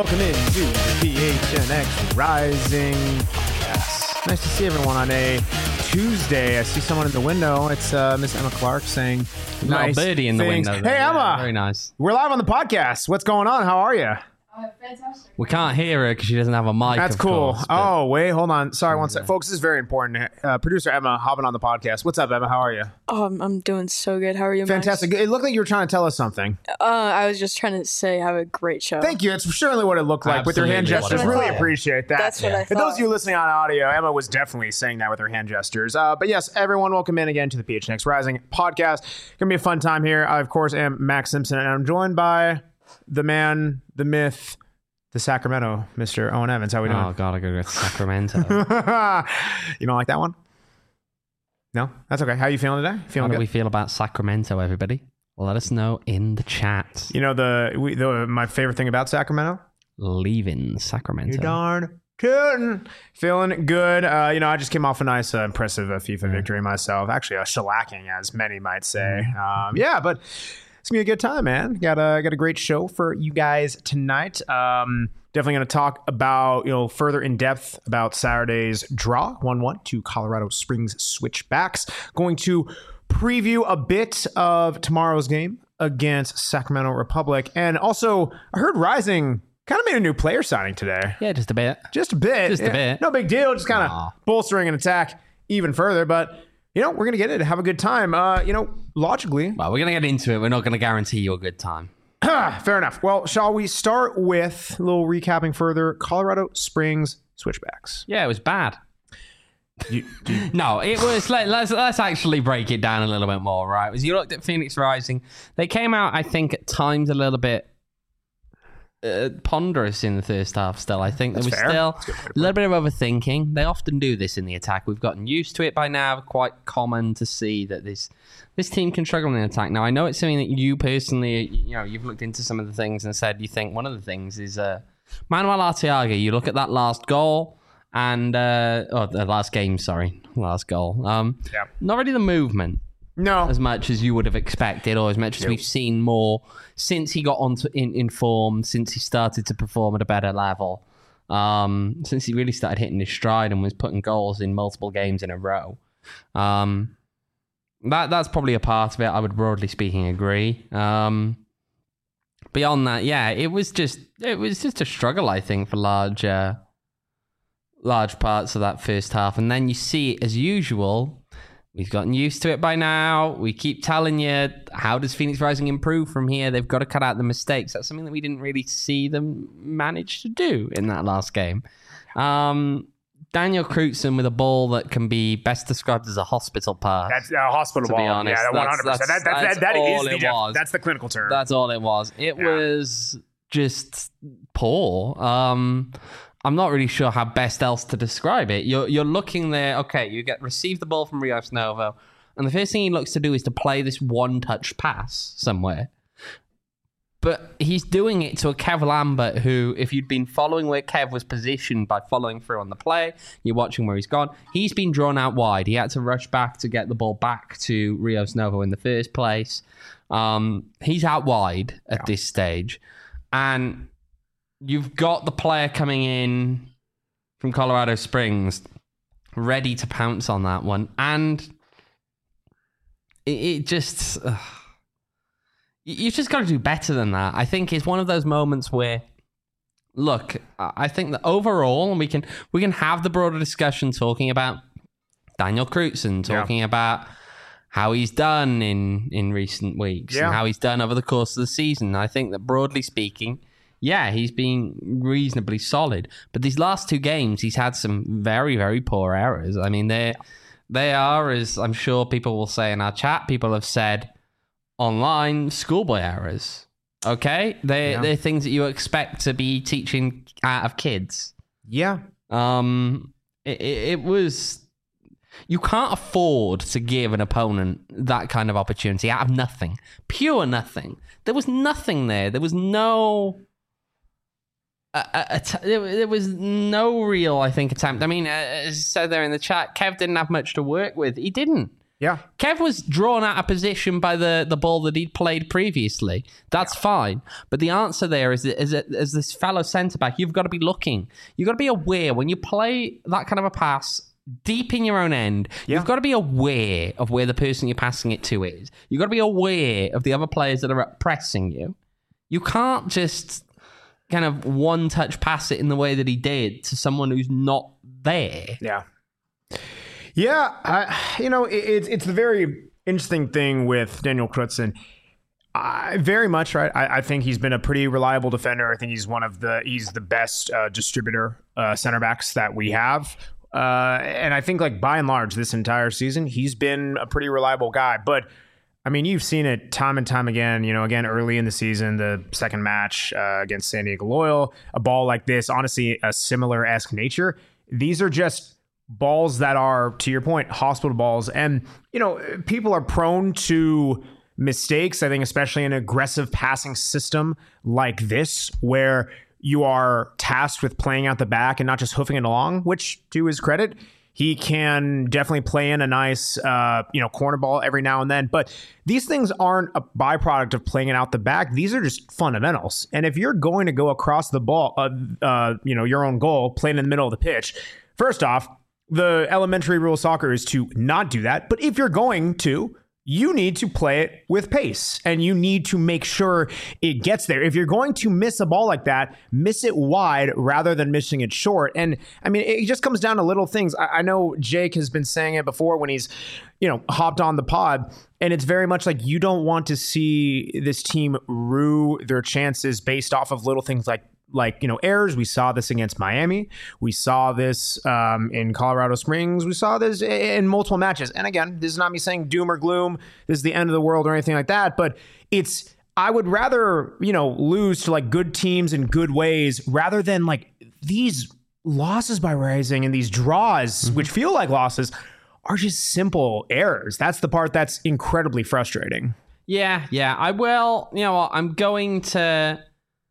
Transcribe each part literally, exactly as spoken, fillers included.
Welcome into the P H N X Rising podcast. Nice to see everyone on a Tuesday. I see someone in the window. It's uh, Miss Emma Clark saying nice little birdie in the things. window. Hey, there. Emma. Yeah, very nice. We're live on the podcast. What's going on? How are you? Oh, fantastic. We can't hear her because she doesn't have a mic. That's of cool. Course, but- oh, wait, hold on. Sorry, one sec. Folks, this is very important. Uh, producer Emma hopping on the podcast. What's up, Emma? How are you? Oh, I'm, I'm doing so good. How are you, Max? Fantastic. It looked like you were trying to tell us something. Uh, I was just trying to say have a great show. Thank you. It's certainly what it looked like with your hand Absolutely gestures. what I Really thought. appreciate that. That's what I For those thought. of you listening on audio, Emma was definitely saying that with her hand gestures. Uh, but yes, everyone, welcome in again to the P H N X Rising podcast. Gonna be a fun time here. I, of course, am Max Simpson, and I'm joined by the man, the myth, the Sacramento, Mister Owen Evans. How we doing? Oh, God, I gotta go to Sacramento. You don't like that one? No? That's okay. How you feeling today? How Feeling do good? we feel about Sacramento, everybody? Let us know in the chat. You know, the, we, the my favorite thing about Sacramento? Leaving Sacramento. You darn tootin'. Feeling good. Uh, you know, I just came off a nice, uh, impressive uh, FIFA victory myself. Actually, a shellacking, as many might say. Um, yeah, but it's gonna be a good time, man. Got a got a great show for you guys tonight. Um, definitely gonna talk about, you know, further in depth about Saturday's draw, one one to Colorado Springs Switchbacks. Going to preview a bit of tomorrow's game against Sacramento Republic, and also I heard Rising kind of made a new player signing today. Yeah, just a bit. Just a bit. Just a Yeah, bit. No big deal. Just kind of Aw. bolstering an attack even further. But, you know, we're going to get it. Have a good time. Uh, you know, logically. Well, we're gonna get into it. We're not gonna guarantee you a good time. Fair enough. Well, shall we start with a little recapping further? Colorado Springs Switchbacks. Yeah, it was bad. You, you, No, it was. Let, let's let's actually break it down a little bit more, right? As you looked at Phoenix Rising, they came out, I think, at times a little bit uh, ponderous in the first half. Still, I think there was That's fair. still That's a good way to a little bit of overthinking. They often do this in the attack. We've gotten used to it by now. Quite common to see that this this team can struggle in attack. Now, I know it's something that you personally, you know, you've looked into some of the things and said you think one of the things is uh, Manuel Arteaga. You look at that last goal. And uh, oh, the last game, sorry, last goal. Um, Yeah. not really the movement no. as much as you would have expected, or as much as Nope. we've seen more since he got onto in, in form, since he started to perform at a better level, um, since he really started hitting his stride and was putting goals in multiple games in a row. Um, that that's probably a part of it. I would broadly speaking agree. Um, beyond that, yeah, it was just it was just a struggle, I think, for large. Uh, large parts of that first half, and then you see, as usual, we've gotten used to it by now. We keep telling you, how does Phoenix Rising improve from here? They've got to cut out the mistakes. That's something that we didn't really see them manage to do in that last game. Um, Daniel Crutzen with a ball that can be best described as a hospital pass. That's a hospital To be ball. honest, yeah, that's- one hundred percent. that's- That, that, that's that, that all is the it def- was. That's the clinical term. That's all it was. It Yeah. was just poor. Um, I'm not really sure how best else to describe it. You're you're looking there. Okay, you get receive the ball from Rios Novo, and the first thing he looks to do is to play this one-touch pass somewhere. But he's doing it to a Kev Lambert who, if you'd been following where Kev was positioned by following through on the play, you're watching where he's gone. He's been drawn out wide. He had to rush back to get the ball back to Rios Novo in the first place. Um, he's out wide at Yeah. this stage. And you've got the player coming in from Colorado Springs ready to pounce on that one. And it, it just... Uh, you've just got to do better than that. I think it's one of those moments where, look, I think that overall, and we can we can have the broader discussion talking about Daniel Crutzen, talking Yeah. about how he's done in, in recent weeks Yeah. and how he's done over the course of the season. I think that broadly speaking, yeah, he's been reasonably solid. But these last two games, he's had some very, very poor errors. I mean, they they are, as I'm sure people will say in our chat, people have said online, schoolboy errors. Okay? They, Yeah. They're things that you expect to be teaching out of kids. yeah. Um, it, it, it was... You can't afford to give an opponent that kind of opportunity out of nothing. Pure nothing. There was nothing there. There was no... A, a, a t- there there was no real, I think, attempt. I mean, uh, as I said there in the chat, Kev didn't have much to work with. He didn't. Yeah. Kev was drawn out of position by the, the ball that he'd played previously. That's yeah. fine. But the answer there is, is that as this fellow centre-back, you've got to be looking. You've got to be aware when you play that kind of a pass deep in your own end, yeah. you've got to be aware of where the person you're passing it to is. You've got to be aware of the other players that are pressing you. You can't just kind of one-touch pass it in the way that he did to someone who's not there. Yeah. Yeah, I, you know, it, it's it's the very interesting thing with Daniel Crutzen. I very much right. I, I think he's been a pretty reliable defender. I think he's one of the he's the best uh, distributor uh, center backs that we have. Uh, and I think like by and large this entire season he's been a pretty reliable guy. But I mean, you've seen it time and time again. You know, again early in the season, the second match uh, against San Diego Loyal, a ball like this, honestly, a similar-esque nature. These are just balls that are, to your point, hospital balls. And, you know, people are prone to mistakes, I think, especially in an aggressive passing system like this, where you are tasked with playing out the back and not just hoofing it along, which, to his credit, he can definitely play in a nice, uh, you know, corner ball every now and then. But these things aren't a byproduct of playing it out the back. These are just fundamentals. And if you're going to go across the ball, uh, uh, you know, your own goal, playing in the middle of the pitch, first off, the elementary rule of soccer is to not do that. But if you're going to, you need to play it with pace and you need to make sure it gets there. If you're going to miss a ball like that, miss it wide rather than missing it short. And I mean, it just comes down to little things. I, I know Jake has been saying it before when he's, you know, hopped on the pod, and it's very much like you don't want to see this team rue their chances based off of little things like Like, you know, errors. We saw this against Miami. We saw this um, in Colorado Springs. We saw this in multiple matches. And again, this is not me saying doom or gloom. This is the end of the world or anything like that. But it's, I would rather, you know, lose to like good teams in good ways rather than like these losses by Rising and these draws, mm-hmm. which feel like losses, are just simple errors. That's the part that's incredibly frustrating. Yeah, yeah. I will, you know what, I'm going to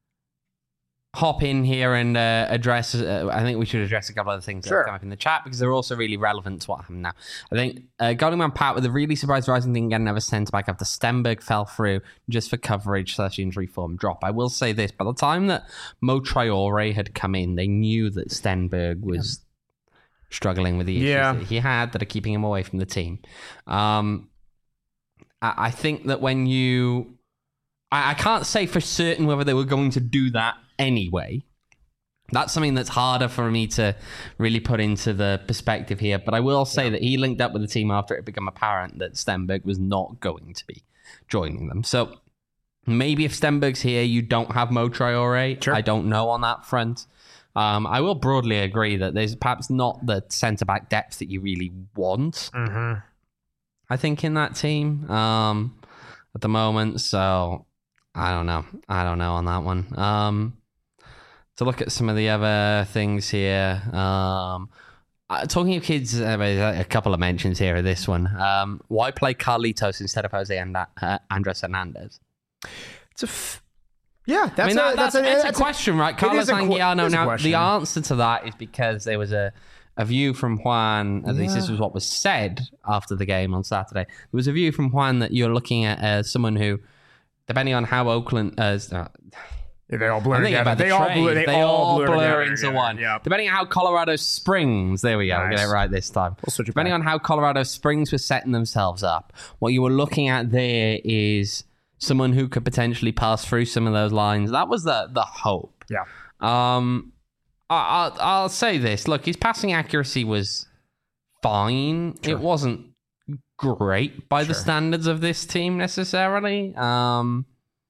hop in here and uh, address, uh, I think we should address a couple of the things sure. that come up in the chat because they're also really relevant to what happened now. I think uh, Goldman Pat with a really surprised Rising didn't get another centre back after Stenberg fell through just for coverage slash injury form drop. I will say this, by the time that Mo Traore had come in, they knew that Stenberg was yeah. struggling with the issues yeah. that he had that are keeping him away from the team. Um, I, I think that when you... I, I can't say for certain whether they were going to do that anyway. That's something that's harder for me to really put into the perspective here. But I will say yeah. that he linked up with the team after it had become apparent that Stenberg was not going to be joining them. So maybe if Stenberg's here, you don't have Mo Traore. Sure. I don't know on that front. Um, I will broadly agree that there's perhaps not the centre-back depth that you really want, mm-hmm. I think, in that team um, at the moment. So I don't know. I don't know on that one. Um, to look at some of the other things here. Um, uh, talking of kids, uh, a couple of mentions here of this one. Um, why play Carlitos instead of Jose and uh, Andres Hernandez? It's a f- yeah, that's I mean, a, that, that's, that's, a, a, that's a question, right? Carlos qu- Anguiano. Now, question. the answer to that is because there was a, a view from Juan, at yeah. least this was what was said after the game on Saturday. There was a view from Juan that you're looking at as someone who, depending on how Oakland... Uh, Yeah, they all blur together. The they, all blur, they, they all all blur, blur together. into yeah, one. Yeah. Depending on how Colorado Springs, there we go, nice. we'll get it right this time. We'll Depending back. on how Colorado Springs was setting themselves up, what you were looking at there is someone who could potentially pass through some of those lines. That was the the hope. Yeah. Um, I, I'll, I'll say this. Look, his passing accuracy was fine. Sure. It wasn't great by sure. the standards of this team necessarily. Um...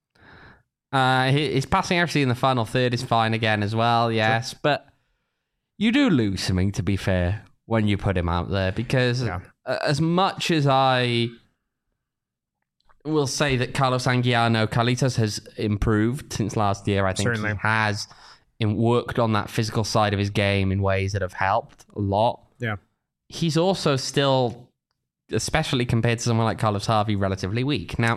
Uh, his passing accuracy in the final third is fine again as well, yes. Sure. But you do lose something, to be fair, when you put him out there. Because yeah. as much as I will say that Carlos Anguiano, Carlitos has improved since last year, I think Certainly. he has worked on that physical side of his game in ways that have helped a lot. Yeah, he's also still, especially compared to someone like Carlos Harvey, relatively weak. Now,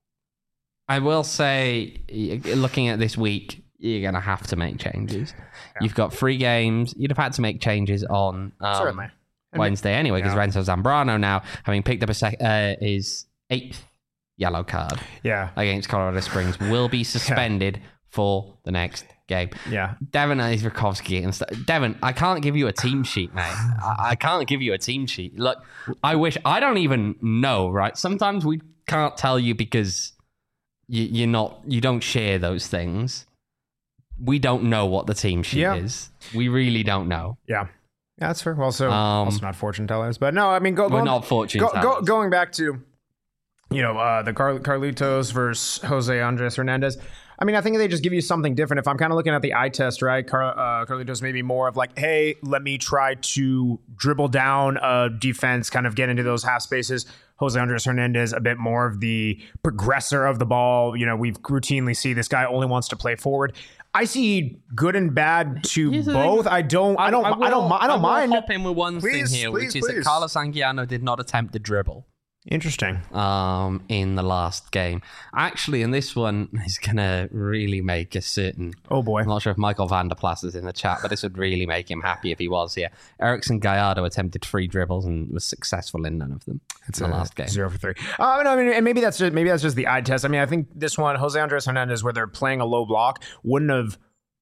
I will say, looking at this week, you're going to have to make changes. Yeah. You've got three games. You'd have had to make changes on um, Wednesday anyway, because yeah. Renzo Zambrano now, having picked up a sec- uh, his eighth yellow card yeah. against Colorado Springs, will be suspended yeah. for the next game. Yeah. Devin Izrakovsky and stuff. Devin, I can't give you a team sheet, mate. I-, I can't give you a team sheet. Look, I wish, I don't even know, right? Sometimes we can't tell you because you, you're not, you don't share those things. We don't know what the team sheet yeah. is. We really don't know. Yeah. Yeah, that's fair. Well, so Um, also not fortune tellers, but no, I mean, go, we're going, not fortune go, tellers. go, going back to, you know, uh, the Car- Carlitos versus Jose Andres Hernandez. I mean, I think they just give you something different. If I'm kind of looking at the eye test, right? Car- uh, Carlitos maybe more of like, hey, let me try to dribble down a defense, kind of get into those half spaces. Jose Andres Hernandez, a bit more of the progressor of the ball. You know, we've routinely see this guy only wants to play forward. I see good and bad to Here's the both. thing. I don't. I don't. I, will, I don't. I don't I will mind. hop in with one Please, thing here, please, which is please. that Carlos Anguiano did not attempt the dribble. Interesting. Um, in the last game, actually, and this one is gonna really make a certain. Oh boy! I'm not sure if Michael Vanderplas is in the chat, but this would really make him happy if he was here. Erickson Gallardo attempted three dribbles and was successful in none of them. It's in the last game, zero for three. Uh, I mean, and maybe that's just maybe that's just the eye test. I mean, I think this one, Jose Andres Hernandez, where they're playing a low block, wouldn't have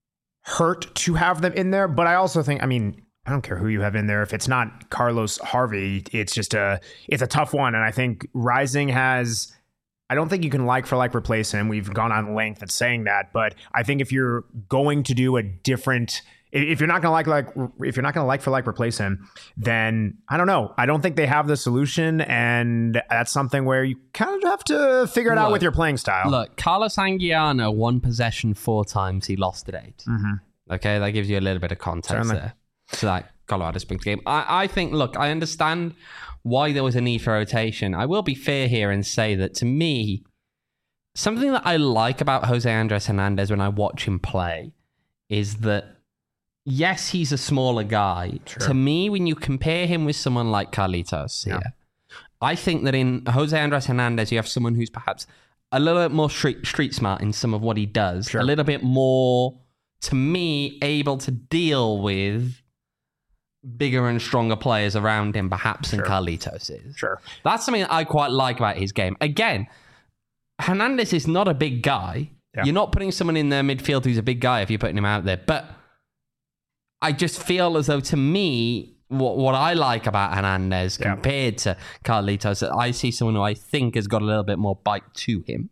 hurt to have them in there. But I also think, I mean, I don't care who you have in there. If it's not Carlos Harvey, it's just a it's a tough one. And I think Rising has, I don't think you can like for like replace him. We've gone on length at saying that, but I think if you're going to do a different, if you're not going to like like if you're not going to like for like replace him, then I don't know. I don't think they have the solution, and that's something where you kind of have to figure it look, out with your playing style. Look, Carlos Anguiano won possession four times. He lost at eight. Mm-hmm. Okay, that gives you a little bit of context Certainly. there. To that Colorado Springs game. I, I think, look, I understand why there was a need for rotation. I will be fair here and say that to me, something that I like about Jose Andres Hernandez when I watch him play is that, yes, he's a smaller guy. Sure. To me, when you compare him with someone like Carlitos here, yeah. I think that in Jose Andres Hernandez, you have someone who's perhaps a little bit more street, street smart in some of what he does, Sure. a little bit more, to me, able to deal with bigger and stronger players around him, perhaps, than Sure. Carlitos is. Sure. That's something that I quite like about his game. Again, Hernandez is not a big guy. Yeah. You're not putting someone in their midfield who's a big guy if you're putting him out there. But I just feel as though, to me, what, what I like about Hernandez Yeah. compared to Carlitos, I see someone who I think has got a little bit more bite to him.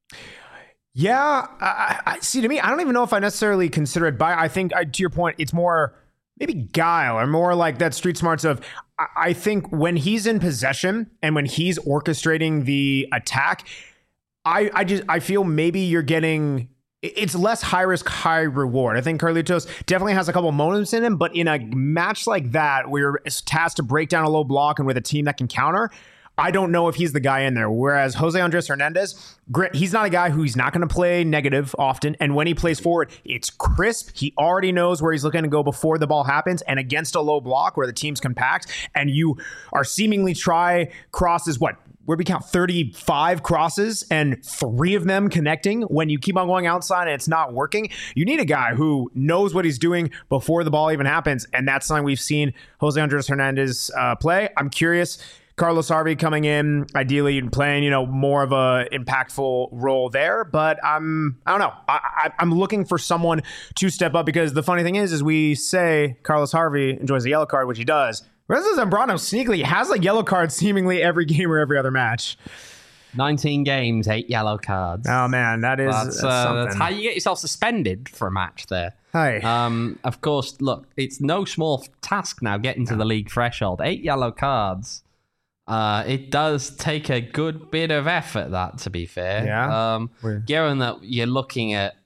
Yeah, I, I see. To me, I don't even know if I necessarily consider it by. I think, I, to your point, it's more maybe guile or more like that street smarts of. I, I think when he's in possession and when he's orchestrating the attack, I, I just I feel maybe you're getting. It's less high risk, high reward. I think Carlitos definitely has a couple moments in him, but in a match like that, where you're tasked to break down a low block and with a team that can counter, I don't know if he's the guy in there. Whereas Jose Andres Hernandez, he's not a guy who's not going to play negative often. And when he plays forward, it's crisp. He already knows where he's looking to go before the ball happens. And against a low block where the team's compact and you are seemingly try crosses, what? Where we count thirty-five crosses and three of them connecting when you keep on going outside and it's not working. You need a guy who knows what he's doing before the ball even happens. And that's something we've seen Jose Andres Hernandez uh, play. I'm curious. Carlos Harvey coming in, ideally playing, you know, more of a impactful role there. But I'm, I don't know. I, I, I'm looking for someone to step up because the funny thing is, is we say Carlos Harvey enjoys a yellow card, which he does. Renzo Zambrano sneakily has a yellow card seemingly every game or every other match. nineteen games, eight yellow cards. Oh, man, that is That's, that's uh, something. that's how you get yourself suspended for a match there. Hey. Um, of course, look, it's no small task now getting to the league threshold. Eight yellow cards. Uh, it does take a good bit of effort, that, to be fair. Yeah. Um, given that you're looking at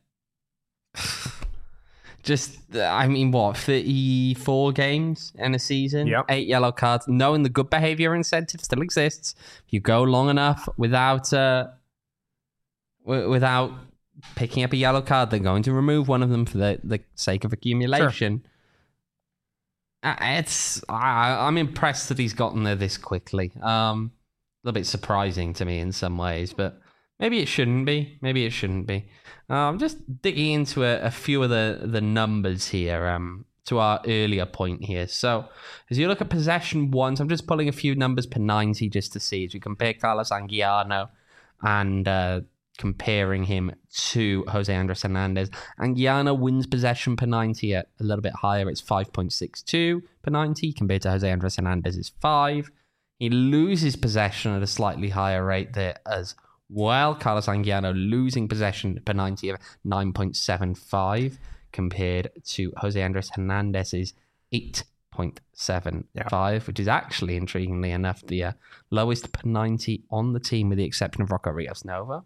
just, I mean, what, thirty-four games in a season? Yep. Eight yellow cards. Knowing the good behavior incentive still exists. If you go long enough without uh, w- without picking up a yellow card, they're going to remove one of them for the, the sake of accumulation. Sure. Uh, it's I, I'm impressed that he's gotten there this quickly. Um, a little bit surprising to me in some ways, but maybe it shouldn't be. Maybe it shouldn't be. Uh, I'm just digging into a, a few of the, the numbers here. Um, to our earlier point here. So as you look at possession ones, I'm just pulling a few numbers per ninety just to see as we compare Carlos Anguiano and uh, comparing him to Jose Andres Hernandez. Anguiano wins possession per ninety at a little bit higher. It's five point six two per ninety compared to Jose Andres Hernandez is five. He loses possession at a slightly higher rate there as well. Carlos Anguiano losing possession per ninety of nine point seven five compared to Jose Andres Hernandez's eight point seven five, yeah. which is actually, intriguingly enough, the uh, lowest per ninety on the team with the exception of Rocco Rios Nova.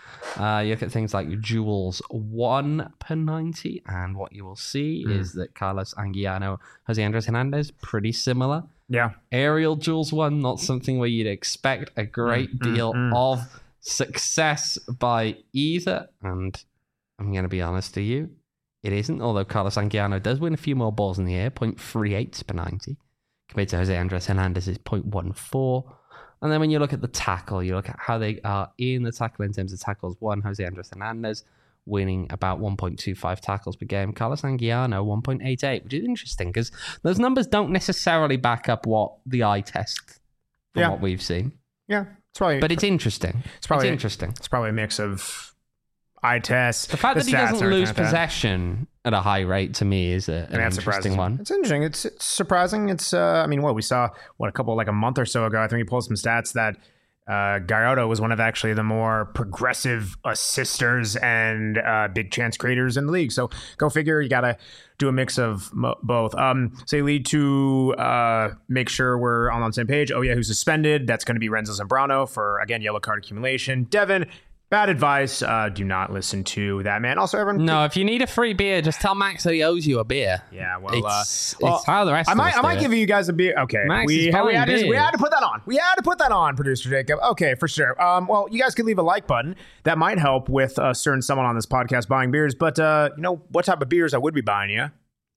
Uh, you look at things like Jules one per ninety, and what you will see mm. is that Carlos Anguiano, Jose Andres Hernandez, pretty similar. Yeah. Aerial Jules one, not something where you'd expect a great mm, deal mm, mm. of success by either. And I'm going to be honest to you, it isn't, although Carlos Anguiano does win a few more balls in the air, zero point three eight per ninety, compared to Jose Andres Hernandez's zero point one four. And then when you look at the tackle, you look at how they are in the tackle in terms of tackles. One, Jose Andres Hernandez winning about one point two five tackles per game. Carlos Anguiano, one point eight eight, which is interesting because those numbers don't necessarily back up what the eye test from yeah. what we've seen. Yeah, it's probably. But it's interesting. It's probably it's interesting. It's probably a mix of eye tests. The fact the that he doesn't lose like possession at a high rate to me is a, an interesting one. It's interesting. It's, it's surprising. It's uh, I mean, what we saw what a couple like a month or so ago. I think we pulled some stats that uh, Gallardo was one of actually the more progressive assisters and uh, big chance creators in the league. So go figure. You got to do a mix of mo- both. Um, say lead to uh, make sure we're all on the same page. Oh yeah, who's suspended? That's going to be Renzo Zambrano for again yellow card accumulation. Devin. Bad advice. Uh, do not listen to that man. Also, everyone. No, if you need a free beer, just tell Max that he owes you a beer. Yeah, well, it's, uh, well it's how the rest. I of might, us I might do give it. you guys a beer. Okay, Max we, is had, we, buying had to, we beers. had to put that on. We had to put that on, producer Jacob. Okay, for sure. Um, well, you guys could leave a like button. That might help with a certain someone on this podcast buying beers. But uh, you know what type of beers I would be buying you?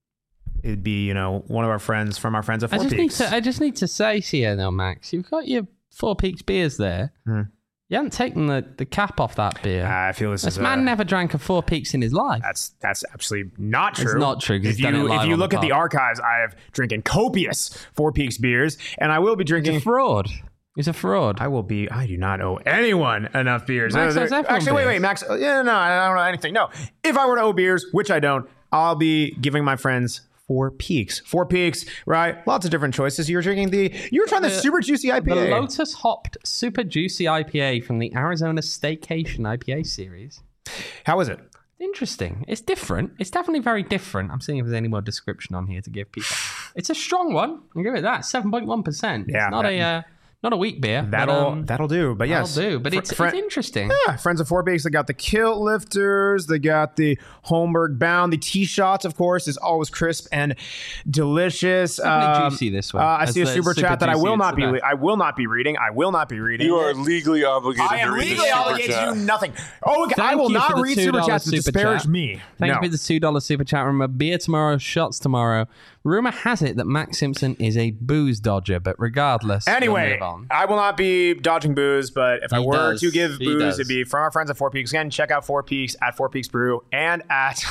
It'd be you know one of our friends from our friends at Four I just Peaks. Need to, I just need to say here, though, Max, you've got your Four Peaks beers there. Hmm. You haven't taken the, the cap off that beer. Uh, I feel this, this is man a, never drank a Four Peaks in his life. That's that's absolutely not true. It's not true. If you if you look at the archives, I have drinking copious Four Peaks beers, and I will be drinking. He's a fraud. He's a fraud. I will be. I do not owe anyone enough beers. Max Uh, owes everyone actually, wait, beers. wait, Max. Yeah, no, I don't know anything. No, if I were to owe beers, which I don't, I'll be giving my friends Four Peaks. Four Peaks, right? Lots of different choices. You were drinking the. You were trying the, the super juicy I P A. The Lotus hopped super juicy I P A from the Arizona Staycation I P A series. How is it? Interesting. It's different. It's definitely very different. I'm seeing if there's any more description on here to give people. It's a strong one. I'll give it that. seven point one percent. Yeah. It's not that, a uh, not a weak beer. That'll but, um, that'll do. But yes, that'll do. But fr- it's, fr- it's interesting. Yeah, friends of Four Peaks. They got the Kilt Lifters. They got the Holmberg Bound. The Tee Shots, of course, is always crisp and delicious. Definitely Um, juicy this one. Uh, I As see a the super, super chat that I juicy, will it's not the be. best. I will not be reading. I will not be reading. You are legally obligated I am to read legally the super obligated chat. to do nothing. Oh, okay. I Thank will you not for the read super two dollar chats to super disparage chat. me. Thank no. you for the two dollar super chat. Remember, beer tomorrow, shots tomorrow. Rumor has it that Max Simpson is a booze dodger, but regardless, we'll Anyway, move on. I will not be dodging booze, but if I He were does. to give He booze, does. it'd be from our friends at Four Peaks. Again, check out Four Peaks at Four Peaks Brew and at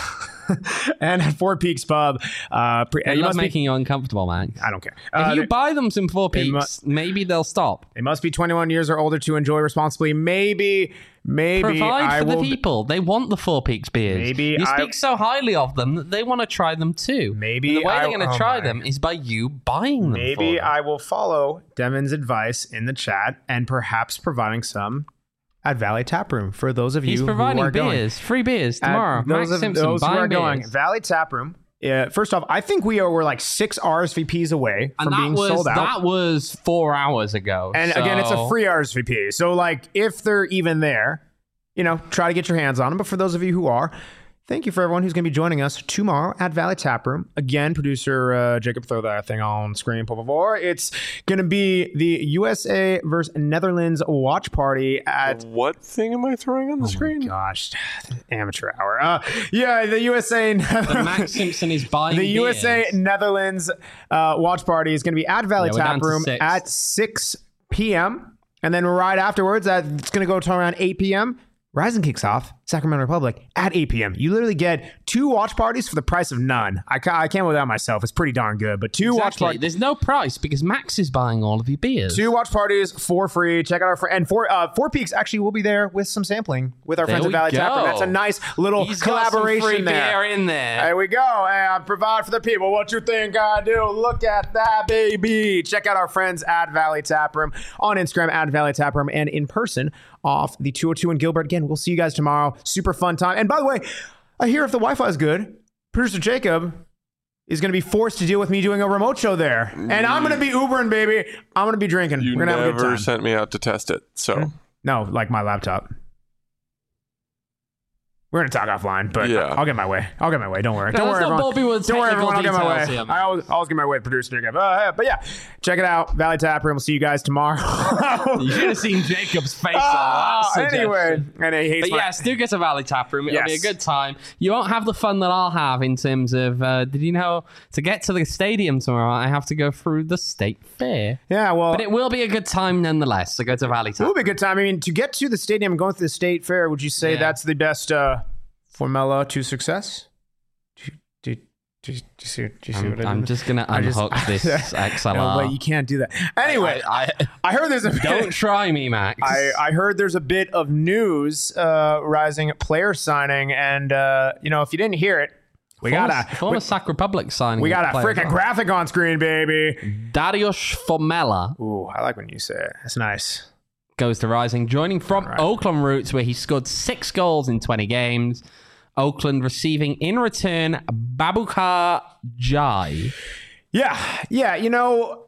and at Four Peaks Pub. Uh, pre- I you love must making be, you uncomfortable, Max. I don't care. If Uh, you they, buy them some Four they Peaks, mu- maybe they'll stop. they must be twenty-one years or older to enjoy responsibly. Maybe, maybe Provide I for will. the people. They want the Four Peaks beers. Maybe you I- speak so highly of them that they want to try them too. Maybe And the way I- they're going to oh try my- them is by you buying them. Maybe for them. I will follow Devin's advice in the chat and perhaps providing some at Valley Tap Room for those of you He's who providing are going. beers, free beers At tomorrow. those Max of Simpson those who buying are going, beers. Valley Tap Room. Uh, first off, I think we are we're like six R S V Ps away and from that being was sold out. that was four hours ago. And again, it's a so- free R S V P. So like, if they're even there, you know, try to get your hands on them. But for those of you who are, thank you for everyone who's going to be joining us tomorrow at Valley Tap Room. Again, producer uh, Jacob, throw that thing on screen, por favor. It's going to be the U S A versus Netherlands watch party at. What thing am I throwing on the screen? Gosh, amateur hour. Uh, yeah, the U S A. But Max Simpson is buying The U S A beers. Netherlands uh, watch party is going to be at Valley Yeah, we're down Tap to Room six. at six p.m. And then right afterwards, that it's going to go to around eight p.m. Rising kicks off Sacramento Republic at eight p.m. You literally get two watch parties for the price of none. I, ca- I can't without myself. It's pretty darn good. But two watch Exactly. parties. There's no price because Max is buying all of your beers. Two watch parties for free. Check out our friend. And four, uh, Four Peaks actually will be there with some sampling with our There friends at we Valley Tap Room. go. That's a nice little He's got collaboration some free there. beer in there. There we go. And provide for the people. What you think I do? Look at that, baby. Check out our friends at Valley Tap Room on Instagram at Valley Tap Room and in person off the two oh two in Gilbert. Again, we'll see you guys tomorrow. Super fun time. And by the way, I hear if the Wi-Fi is good, producer Jacob is going to be forced to deal with me doing a remote show there. And I'm going to be Ubering, baby. I'm going to be drinking. You We're going to have a good never time. sent me out to test it, so No, like my laptop. We're going to talk offline, but Yeah. I'll get my way. I'll get my way. Don't worry. No, Don't let's worry, not everyone. bore people with Don't worry, technical everyone. I'll get my details way. here, man. I always, always get my way, producer Jacob. Uh, but yeah, check it out. Valley Tap Room. We'll see you guys tomorrow. You should have seen Jacob's face Ah, on that suggestion. anyway, and he hates But my- yes, do get to Valley Tap Room. It'll be a Yes. good time. You won't have the fun that I'll have in terms of, uh, did you know, to get to the stadium tomorrow, I have to go through the state fair. Yeah, well, But it will be a good time nonetheless, so go to Valley it Tap. will be a good time. I mean, to get to the stadium and going through the state fair, would you say Yeah. that's the best uh, formula to success? Do, do, do, do you see, do you see I'm, what I I'm did? just going to I just- unhook this X L R. No, but you can't do that. Anyway, I, I, I heard there's a don't try me, Max. I, I heard there's a bit of news uh, rising player signing, and uh, you know, if you didn't hear it, we former, got a former we, Sac Republic signing. we got a player. freaking graphic on screen, baby. Dariusz Formella Ooh, I like when you say it. That's nice. goes to Rising, joining from right. Oakland roots, where he scored six goals in twenty games. Oakland receiving in return Babukar Jai. Yeah, yeah. You know,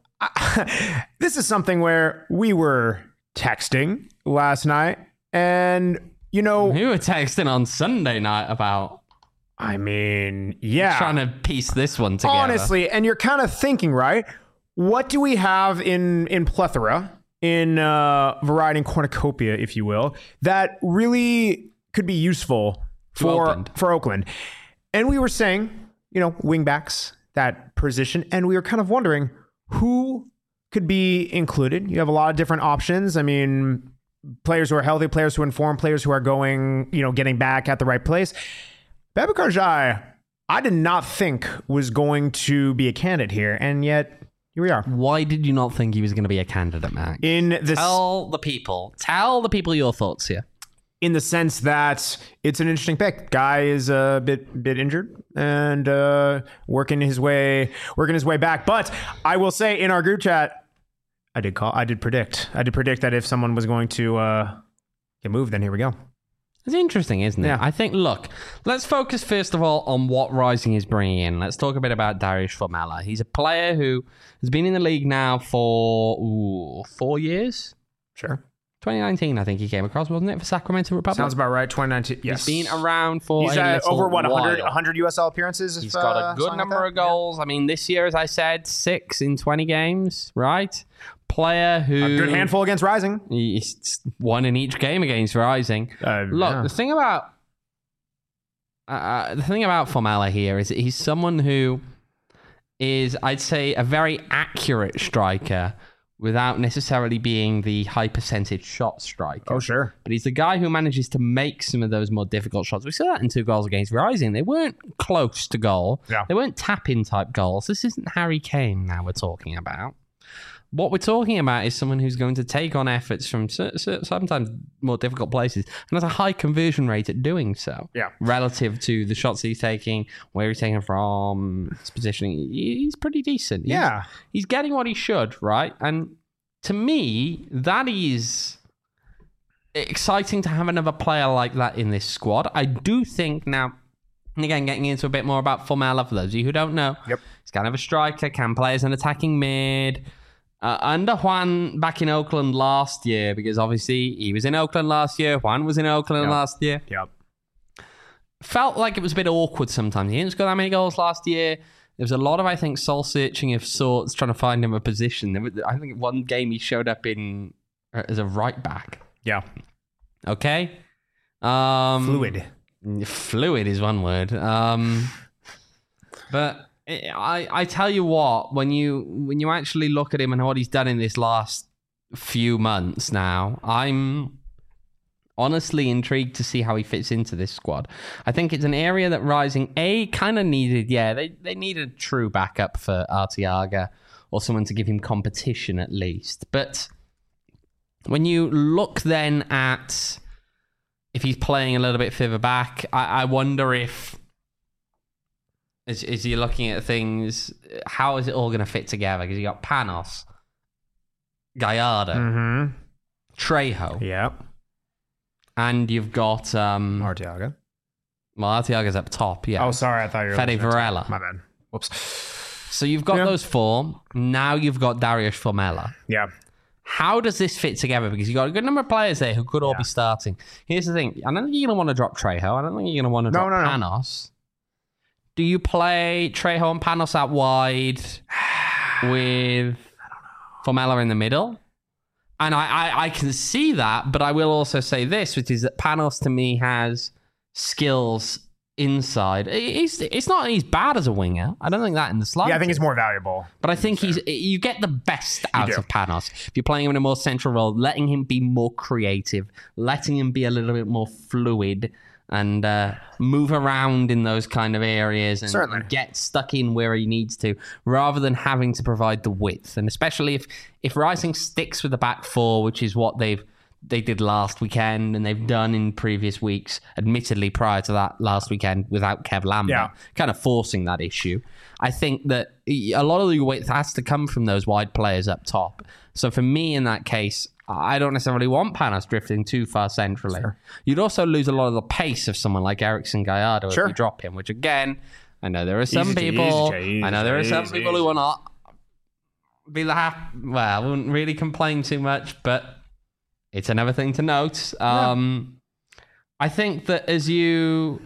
I, this is something where we were texting last night, and you know, We were texting on Sunday night about I mean, yeah, trying to piece this one together. honestly, and you're kind of thinking, right? What do we have in in plethora, in uh, variety and cornucopia, if you will, that really could be useful for Oakland. for Oakland? And we were saying, you know, wingbacks, that position, and we were kind of wondering who could be included. You have a lot of different options. I mean, players who are healthy, players who are informed, players who are going, you know, getting back at the right place. Babukar Jai, I did not think was going to be a candidate here, and yet here we are. Why did you not think he was going to be a candidate, Max? In the Tell the people. Tell the people your thoughts here. in the sense that it's an interesting pick. Guy is a bit bit injured and uh, working his way working his way back. But I will say in our group chat, I did call. I did predict. I did predict that if someone was going to uh, get moved, then here we go. It's interesting, isn't it? Yeah. I think, look, let's focus first of all on what Rising is bringing in. Let's talk a bit about Dariusz Formella. He's a player who has been in the league now for ooh, four years. Sure, twenty nineteen, I think he came across, wasn't it, for Sacramento Republic? sounds about right. twenty nineteen. Yes, He's been around for He's a uh, little over what one hundred, while. one hundred U S L appearances. He's if, got uh, a good something number like of that? goals. I mean, this year, as I said, six in twenty games, right? Player who... Yeah. A good handful against Rising. He's one in each game against Rising. Uh, Look, yeah. the thing about uh, the thing about Formella here is that he's someone who is, I'd say, a very accurate striker without necessarily being the high percentage shot striker. Oh, sure. But he's the guy who manages to make some of those more difficult shots. We saw that in two goals against Rising. They weren't close to goal. Yeah. They weren't tap-in type goals. This isn't Harry Kane now we're talking about. What we're talking about is someone who's going to take on efforts from c- c- sometimes more difficult places and has a high conversion rate at doing so. Yeah. Relative to the shots he's taking, where he's taking from, his positioning, he's pretty decent. He's, Yeah. He's getting what he should, right? And to me, that is exciting to have another player like that in this squad. I do think now, and again, getting into a bit more about Formella, for those of you who don't know, Yep. he's kind of a striker, can play as an attacking mid. Uh, under Juan back in Oakland last year, because obviously he was in Oakland last year, Juan was in Oakland Yep. last year. Yep. Felt like it was a bit awkward sometimes. He didn't score that many goals last year. There was a lot of, I think, soul searching of sorts, trying to find him a position. There was, I think one game he showed up in uh, as a right back. Yeah. Okay, um, Fluid. Fluid is one word. Um, but I, I tell you what, when you when you actually look at him and what he's done in this last few months now, I'm honestly intrigued to see how he fits into this squad. I think it's an area that Rising, A, kind of needed. Yeah, they, they needed a true backup for Arteaga or someone to give him competition at least. But when you look then at if he's playing a little bit further back, I, I wonder if, as, as you're looking at things, how is it all going to fit together? Because you got Panos, Gallardo, Mm-hmm. Trejo, Yep. and you've got um, Arteaga. well, Arteaga's up top. Yeah. Oh, sorry. I thought you were... Fede looking at- Varela. My bad. Whoops. So you've got Yeah. those four. Now you've got Darius Formella. Yeah. How does this fit together? Because you've got a good number of players there who could all Yeah. be starting. Here's the thing. I don't think you're going to want to drop Trejo. I don't think you're going to want to No, drop no, no. Panos. Do you play Trejo and Panos out wide with Formella in the middle? And I, I, I can see that, but I will also say this, which is that Panos to me has skills inside. He's, it's not he's bad as a winger. I don't think that in the slightest. Yeah, I think he's more valuable. But I think he's you get the best out do. of Panos. If you're playing him in a more central role, letting him be more creative, letting him be a little bit more fluid and uh, move around in those kind of areas and, Certainly. and get stuck in where he needs to, rather than having to provide the width. And especially if, if Rising sticks with the back four, which is what they've they did last weekend and they've done in previous weeks, admittedly prior to that last weekend without Kev Lambert, Yeah. kind of forcing that issue. I think that a lot of the width has to come from those wide players up top. So for me, in that case, I don't necessarily want Panos drifting too far centrally. Sure. You'd also lose a lot of the pace of someone like Ericsson Gallardo Sure. if you drop him, which again, I know there are some Easy, people, easy, easy, I know there are some easy, people easy. who are not be the half, well, I wouldn't really complain too much, but it's another thing to note. Um, I think that as you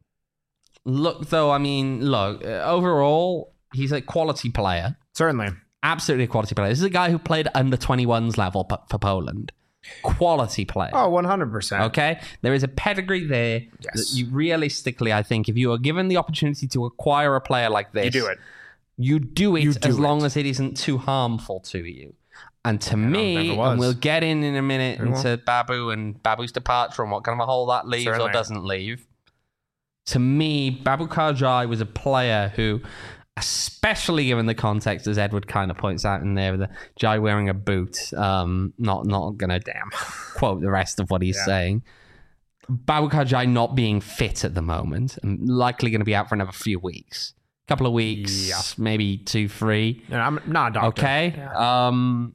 look, though, I mean, look, uh, overall, he's a quality player. Certainly. Absolutely a quality player. This is a guy who played under twenty-ones level p- for Poland. Quality player. Oh, one hundred percent. Okay? There is a pedigree there Yes. that you realistically, I think, if you are given the opportunity to acquire a player like this, You do it. you do it You do as long it. as it isn't too harmul to you. And to never me, was. and we'll get in in a minute Very well. into Babu and Babu's departure and what kind of a hole that leaves Certainly. or doesn't leave. To me, Babu Karjai was a player who, especially given the context, as Edward kind of points out in there, the Jai wearing a boot, um, not not gonna damn quote the rest of what he's Yeah. saying. Babu Karjai not being fit at the moment and likely going to be out for another few weeks, couple of weeks, Yeah. maybe two, three. And I'm not a doctor. Okay. Yeah. Um,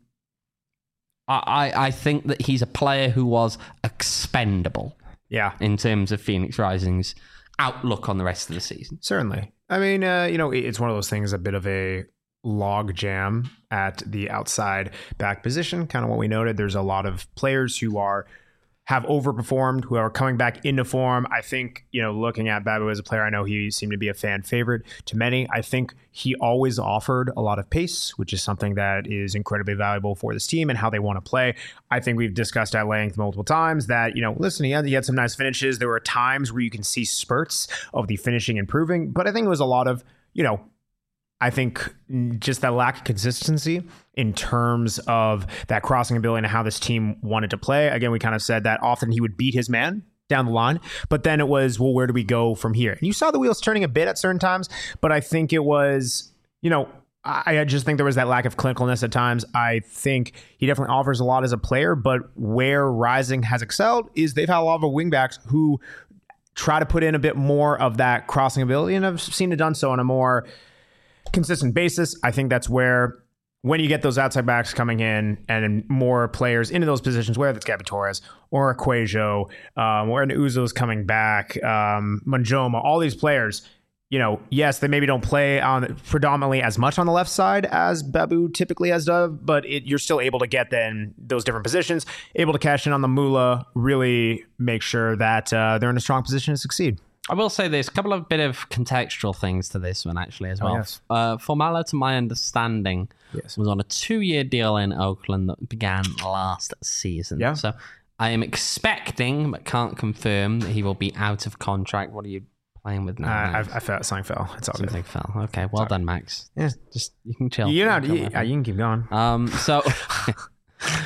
I, I think that he's a player who was expendable yeah. in terms of Phoenix Rising's outlook on the rest of the season. Certainly. I mean, uh, you know, it- it's one of those things, a bit of a log jam at the outside back position. Kind of what we noted. There's a lot of players who are have overperformed, who are coming back into form. I think, you know, looking at Babu as a player, I know he seemed to be a fan favorite to many. I think he always offered a lot of pace, which is something that is incredibly valuable for this team and how they want to play. I think we've discussed at length multiple times that, you know, listen, he had, he had some nice finishes. There were times where you can see spurts of the finishing improving, but I think it was a lot of, you know, I think just that lack of consistency in terms of that crossing ability and how this team wanted to play. Again, we kind of said that often he would beat his man down the line, but then it was, well, where do we go from here? And you saw the wheels turning a bit at certain times, but I think it was, you know, I, I just think there was that lack of clinicalness at times. I think he definitely offers a lot as a player, but where Rising has excelled is they've had a lot of wingbacks who try to put in a bit more of that crossing ability, and I've seen it done so on a more consistent basis. I think that's where, when you get those outside backs coming in and more players into those positions, whether it's Gabby Torres or Aquajo, um, or an Uzo's coming back, um, Manjoma, all these players, you know, yes, they maybe don't play on predominantly as much on the left side as Babu typically has done, but it, you're still able to get then those different positions, able to cash in on the moolah, really make sure that uh, they're in a strong position to succeed. I will say this, a couple of bit of contextual things to this one actually as well. Oh, yes. uh, Formella, to my understanding, Yes. was on a two-year deal in Oakland that began last season. Yeah. So I am expecting, but can't confirm, that he will be out of contract. What are you playing with Uh, now? I, Max? I felt something fell. It's all good. Something fell. Okay, well done, Max. Yeah. Just you can chill. You're not. You can You, chill, you can keep going. Um, so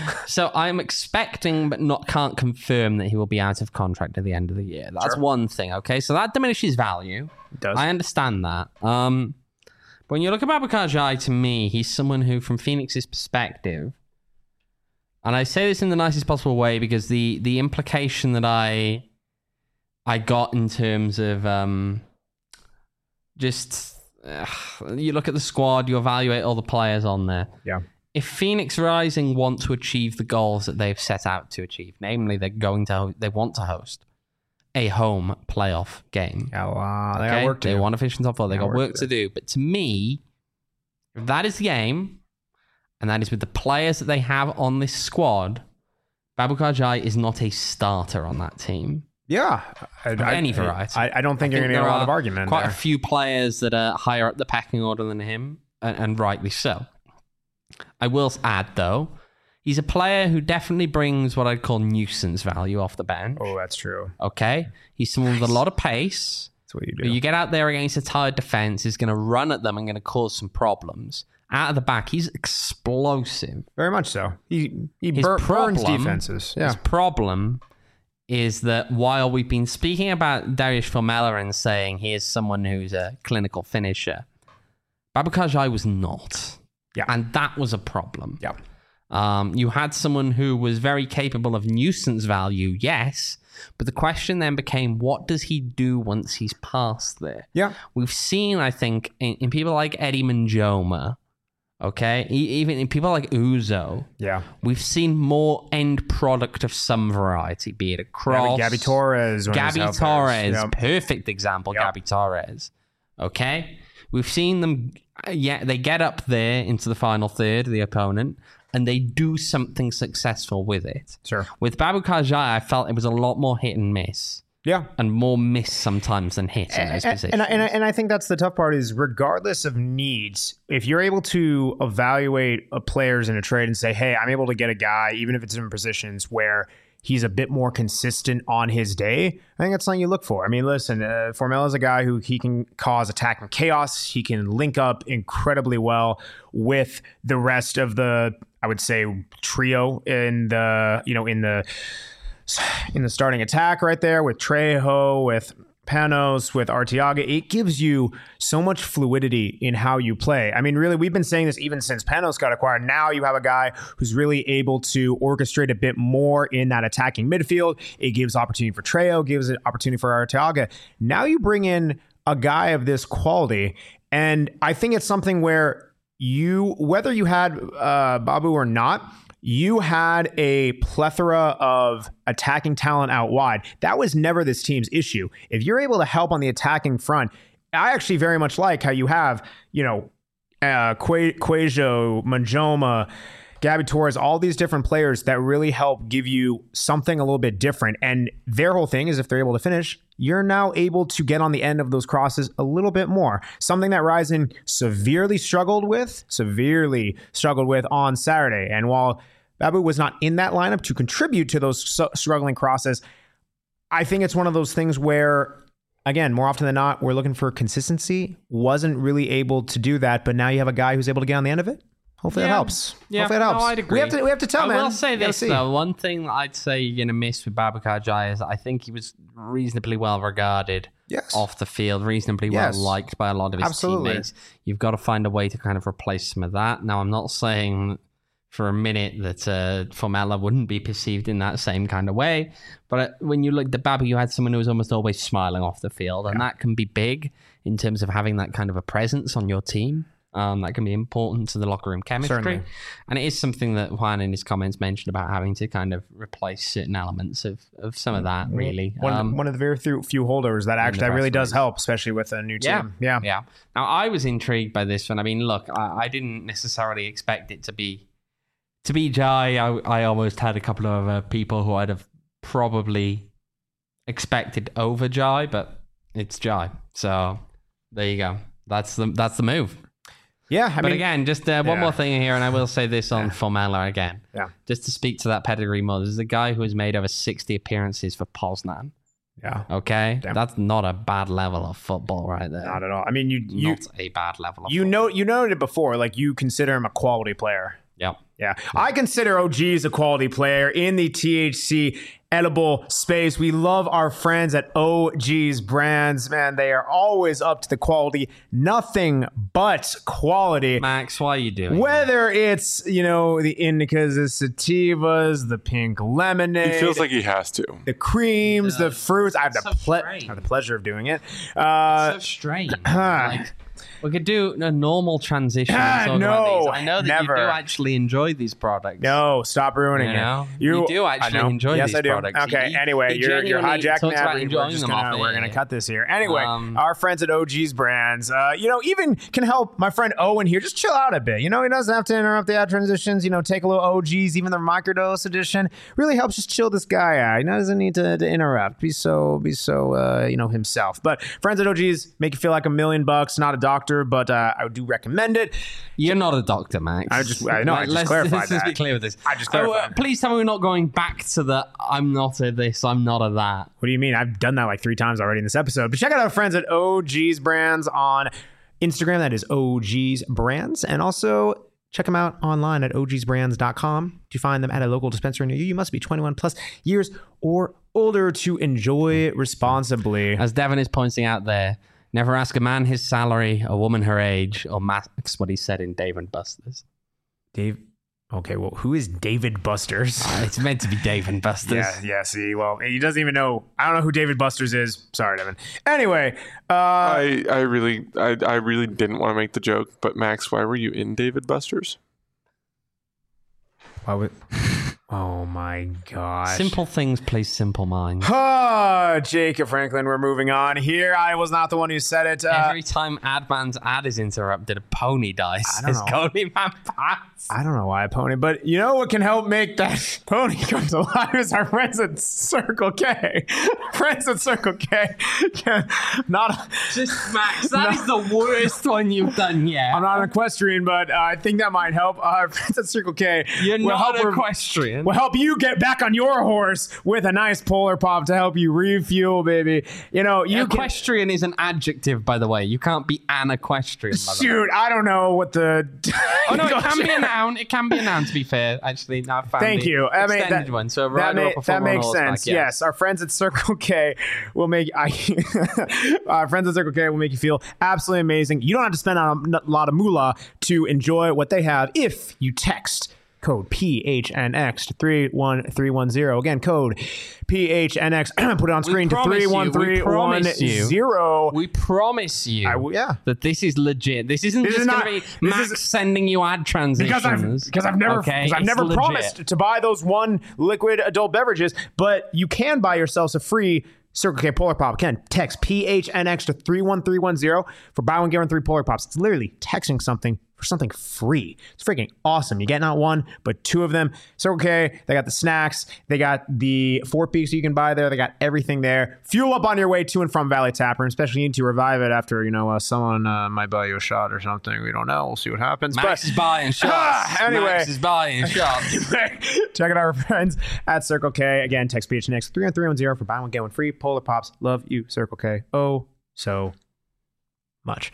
So I'm expecting, but not can't confirm that he will be out of contract at the end of the year. That's Sure. one thing. Okay, so that diminishes value. It does. I understand that. Um, but when you look at Babacar Jai, to me, he's someone who, from Phoenix's perspective, and I say this in the nicest possible way because the the implication that I I got in terms of um, just uh, you look at the squad, you evaluate all the players on there. Yeah. If Phoenix Rising want to achieve the goals that they've set out to achieve, namely they're going to they want to host a home playoff game. Yeah, well, they got Okay? work to They do. want to finish in top four. They They got got work to do. But to me, if that is the game, and that is with the players that they have on this squad, Babacar Jai is not a starter on that team. Yeah. I, Of I- any variety. I, I don't think I you're think going to get a there lot of are argument Quite there. a few players that are higher up the pecking order than him, and, and rightly so. I will add, though, he's a player who definitely brings what I'd call nuisance value off the bench. Oh, that's true. Okay? He's someone with a lot of pace. That's what you do. You get out there against a tired defense, he's going to run at them and going to cause some problems. Out of the back, he's explosive. Very much so. He he His bur- burns problem- defenses. Yeah. His problem is that while we've been speaking about Darius Formella and saying he is someone who's a clinical finisher, Babacar Jai was not. Yeah. And that was a problem. Yeah. Um, you had someone who was very capable of nuisance value, yes, but the question then became, what does he do once he's past there? Yeah. We've seen, I think, in, in people like Eddie Manjoma, okay, e- even in people like Uzo, Yeah. we've seen more end product of some variety, be it a cross. Gabby, Gabby Torres. when he was Gabby out there. Torres, Yep. perfect example, Yep. Gabby Torres. Okay? We've seen them, uh, yeah, they get up there into the final third of the opponent, and they do something successful with it. Sure. With Babacar Jai, I felt it was a lot more hit and miss, Yeah. and more miss sometimes than hit in those And, positions. and, I- and, I, and I think that's the tough part is regardless of needs, if you're able to evaluate a players in a trade and say, hey, I'm able to get a guy, even if it's in positions where he's a bit more consistent on his day, I think that's something you look for. I mean, listen, uh, Formella is a guy who he can cause attack and chaos. He can link up incredibly well with the rest of the, I would say, trio in the, you know, in the, in the starting attack right there with Trejo, with Panos, with Arteaga. It gives you so much fluidity in how you play. I mean, really, we've been saying this even since Panos got acquired. Now you have a guy who's really able to orchestrate a bit more in that attacking midfield. It gives opportunity for Trejo, gives an opportunity for Arteaga. Now you bring in a guy of this quality, and I think it's something where you, whether you had uh, Babu or not, you had a plethora of attacking talent out wide. That was never this team's issue. If you're able to help on the attacking front, I actually very much like how you have, you know, uh, Que- Quajo, Manjoma, Gabby Torres, all these different players that really help give you something a little bit different. And their whole thing is if they're able to finish, you're now able to get on the end of those crosses a little bit more. Something that Ryzen severely struggled with, severely struggled with on Saturday. And while Babu was not in that lineup to contribute to those su- struggling crosses, I think it's one of those things where, again, more often than not, we're looking for consistency. Wasn't really able to do that, but now you have a guy who's able to get on the end of it. Hopefully Yeah. that helps. Yeah, Hopefully that no, helps. I'd agree. We have to, we have to tell, I man. will say You gotta this, see. though. One thing that I'd say you're going to miss with Babacar Jai is that I think he was reasonably well regarded Yes. off the field, reasonably Yes. well liked by a lot of his Absolutely. teammates. You've got to find a way to kind of replace some of that. Now, I'm not saying for a minute that uh, Formella wouldn't be perceived in that same kind of way, but uh, when you looked at Babu, you had someone who was almost always smiling off the field, and that can be big in terms of having that kind of a presence on your team. Um, that can be important to the locker room chemistry. Certainly. And it is something that Juan in his comments mentioned about having to kind of replace certain elements of, of some of that, really. One, Um, one of the very few, few holders that actually that really does referees. help, especially with a new yeah, team. Yeah. yeah. Now, I was intrigued by this one. I mean, look, I, I didn't necessarily expect it to be to be Jai. I, I almost had a couple of uh, people who I'd have probably expected over Jai, but it's Jai. So there you go. That's the that's the move. Yeah. I but mean, again, just uh, one yeah. more thing here, and I will say this on Formella again. Yeah. Just to speak to that pedigree more, this is a guy who has made over sixty appearances for Poznan. yeah. Okay? Damn. That's not a bad level of football right there. Not at all. I mean, you, you, not a bad level of you football. know, you noted it before, like you consider him a quality player. Yep. Yeah. I consider O G's a quality player in the T H C edible space. We love our friends at O G's Brands. Man, they are always up to the quality. Nothing but quality. Max, why are you doing Whether it's, you know, the indicas, the sativas, the pink lemonade. He feels like he has to. The creams, the fruits. I have, the so ple- strange. I have the pleasure of doing it. that? Uh, So strange. like, we could do a normal transition. Ah, and talk no, about these. I know that never. you do actually enjoy these products. no, stop ruining You know? it. You do I actually know. enjoy yes, these I do. products. Okay, He- anyway, he you're, you're genuinely hijacking talks about that. enjoying We're just them gonna, off we're air. gonna cut this here. Anyway, Um, our friends at O G's Brands, uh, you know, even can help my friend Owen here just chill out a bit. You know, he doesn't have to interrupt the ad transitions. You know, take a little O G's, even the microdose edition really helps just chill this guy out. He doesn't need to, to interrupt. Be so, be so, uh, you know, himself. But friends at O G's make you feel like a million bucks. Not a doctor, but uh, I do recommend it. You're not a doctor, Max. I just- I know, I just let's, clarified let's just be that. clear with this. I just Oh, uh, clarified. please tell me we're not going back to the I'm not a this, I'm not a that. What do you mean? I've done that like three times already in this episode. But check out our friends at O G's Brands on Instagram. That is O G's Brands. And also check them out online at O Gs brands dot com. To find them at a local dispensary near you, you must be twenty-one plus years or older to enjoy responsibly. As Devin is pointing out there, never ask a man his salary, a woman her age, or Max what he said in Dave and Buster's. Dave. Okay, well, who is David Busters? It's meant to be Dave and Buster's. Yeah, yeah, see, well, he doesn't even know. I don't know who David Busters is. Sorry, Devin. Anyway, uh, I, I really I, I really didn't want to make the joke, but Max, why were you in David Buster's? why would, oh my gosh. Simple things please simple minds. Ah, Jacob Franklin, we're moving on here. I was not the one who said it. Uh, Every time Adman's ad is interrupted, a pony dies. I don't It's know. Pony Man Pants. I don't know why a pony, but you know what can help make that pony come to life is our friends at Circle K. Friends at Circle K can not. Just Max, that is the worst one you've done yet. I'm not an equestrian, but uh, I think that might help. Uh, our friends at Circle K You're will not help an re- equestrian. will help you get back on your horse with a nice Polar Pop to help you refuel, baby. You know, you can. Equestrian is an adjective, by the way. You can't be an equestrian. By the way. Shoot, I don't know what the. Oh no, it can be a noun. It can be a noun. To be fair, actually, now I found Thank the you. I mean, extended that, one. So a that, rider ma- or that performer on makes horseback, sense. yeah. Yes, our friends at Circle K will make I, our friends at Circle K will make you feel absolutely amazing. You don't have to spend a lot of moolah to enjoy what they have if you text code P H N X to three one three one zero. Again, code P H N X. Put it on screen to promise you, three we one three one promise you. zero. We promise you I w- yeah. that this is legit. This isn't This just is going not- to be this Max is- sending you ad transitions. Because I've because I've never Okay, because I've it's never legit. promised to buy those one liquid adult beverages, but you can buy yourselves a free Circle K Polar Pop. Again, text P H N X to three one three one zero for buy one get one three Polar Pops. It's literally texting something for something free. It's freaking awesome. You get not one but two of them. Circle K, they got the snacks, they got the four piece you can buy there. They got everything there. Fuel up on your way to and from Valley Tap Room, especially you need to revive it after you know uh, someone uh, might buy you a shot or something. We don't know. We'll see what happens. Max but is buying shots. Ah, anyway. Max is buying shots. check out our friends at Circle K. Again, text P H N X three one three one zero for buy one get one free Polar Pops. Love you, Circle K. Oh, so much.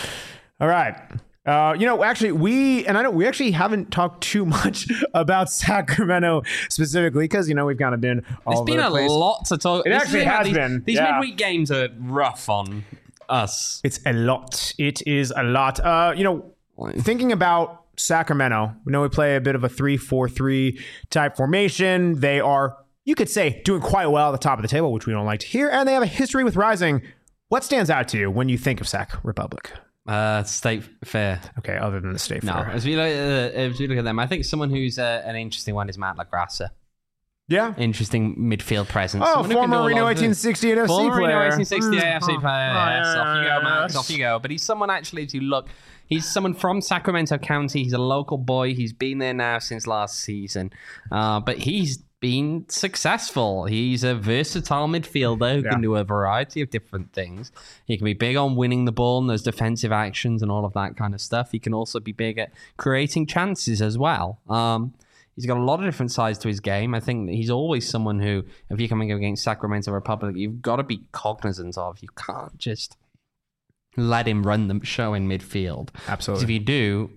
All right. Uh, you know, actually, we and I know we actually haven't talked too much about Sacramento specifically because you know we've kind of been all There's over been the a place. lot to talk. It this actually is how has these, been, These yeah. midweek games are rough on us. It's a lot. It is a lot. Uh, you know, thinking about Sacramento, we know we play a bit of a three four three type formation. They are, you could say, doing quite well at the top of the table, which we don't like to hear, and they have a history with rising. What stands out to you when you think of Sac Republic? Uh, State Fair. Okay, other than the State No, Fair. as we look, uh, as we look at them, I think someone who's uh, an interesting one is Matt LaGrassa. Yeah. Interesting midfield presence. Oh, Someone who can do former a Reno lot of eighteen sixty-eight F C Former player. Reno eighteen sixty-eight F C Mm. player. Oh, Yes, off you go, yeah, Max. yes. Off you go. But he's someone actually, if you look, he's someone from Sacramento County. He's a local boy. He's been there now since last season. Uh, but he's been successful. He's a versatile midfielder who Yeah. can do a variety of different things. He can be big on winning the ball and those defensive actions and all of that kind of stuff. He can also be big at creating chances as well. Um, he's got a lot of different sides to his game. I think that he's always someone who, if you're coming against Sacramento Republic, you've got to be cognizant of. You can't just let him run the show in midfield. 'Cause Absolutely. if you do,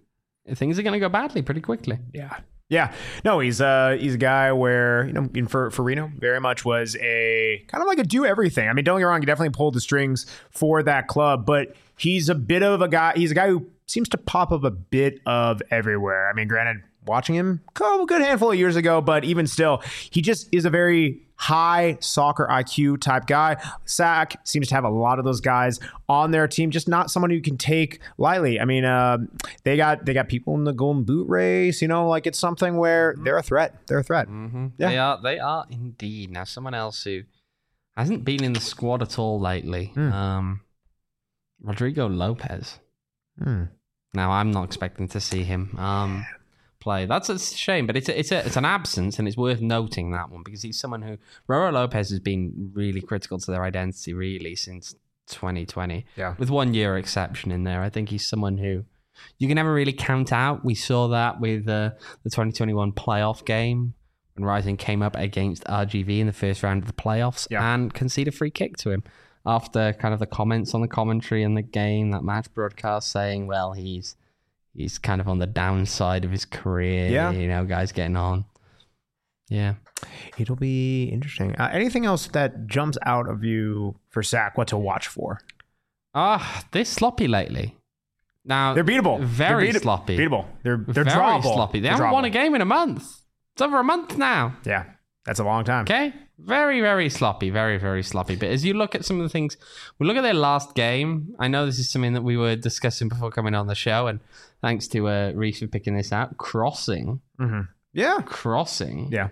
things are going to go badly pretty quickly. Yeah. Yeah, no, he's uh he's a guy where, you know, in for for Reno, very much was a kind of like a do everything. I mean, don't get me wrong, he definitely pulled the strings for that club, but he's a bit of a guy. He's a guy who seems to pop up a bit of everywhere. I mean, granted, watching him a good handful of years ago, but even still, he just is a very high soccer I Q type guy. S A C seems to have a lot of those guys on their team, just not someone who can take lightly. I mean, uh, they got they got people in the Golden Boot race, you know, like it's something where they're a threat. They're a threat. Mm-hmm. Yeah. They are. They are indeed. Now, someone else who hasn't been in the squad at all lately, Mm. um, Rodrigo Lopez. Hmm. Now, I'm not expecting to see him um, play. That's a shame, but it's a, it's a, it's an absence, and it's worth noting that one because he's someone who Roro Lopez has been really critical to their identity really since twenty twenty. Yeah. With one year exception in there, I think he's someone who you can never really count out. We saw that with uh, the twenty twenty-one playoff game when Rising came up against R G V in the first round of the playoffs Yeah. and conceded a free kick to him after kind of the comments on the commentary in the game, that match broadcast saying, well, he's he's kind of on the downside of his career. Yeah. You know, guys getting on. Yeah. It'll be interesting. Uh, anything else that jumps out of you for S A C? What to watch for? Ah, they're sloppy lately. Now They're beatable. Very they're beat- sloppy. Beatable. They're they're very drawable. sloppy. They They're haven't won a drawable. game in a month. It's over a month now. Yeah, that's a long time. Okay. Very, very sloppy. Very, very sloppy. But as you look at some of the things, we look at their last game. I know this is something that we were discussing before coming on the show, and thanks to uh, Reese for picking this out. Crossing. Mm-hmm. Yeah. Crossing. Yeah.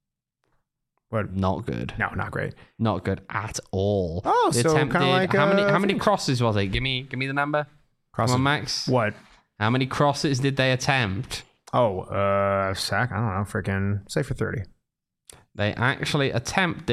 What? Not good. No, not great. Not good at all. Oh, They so kinda attempted- like, how many uh, how many things. crosses was it? Give me give me the number. Crossing. Come on, Max. What? How many crosses did they attempt? Oh, uh, S A C. I don't know. Freaking say for thirty. They actually attempted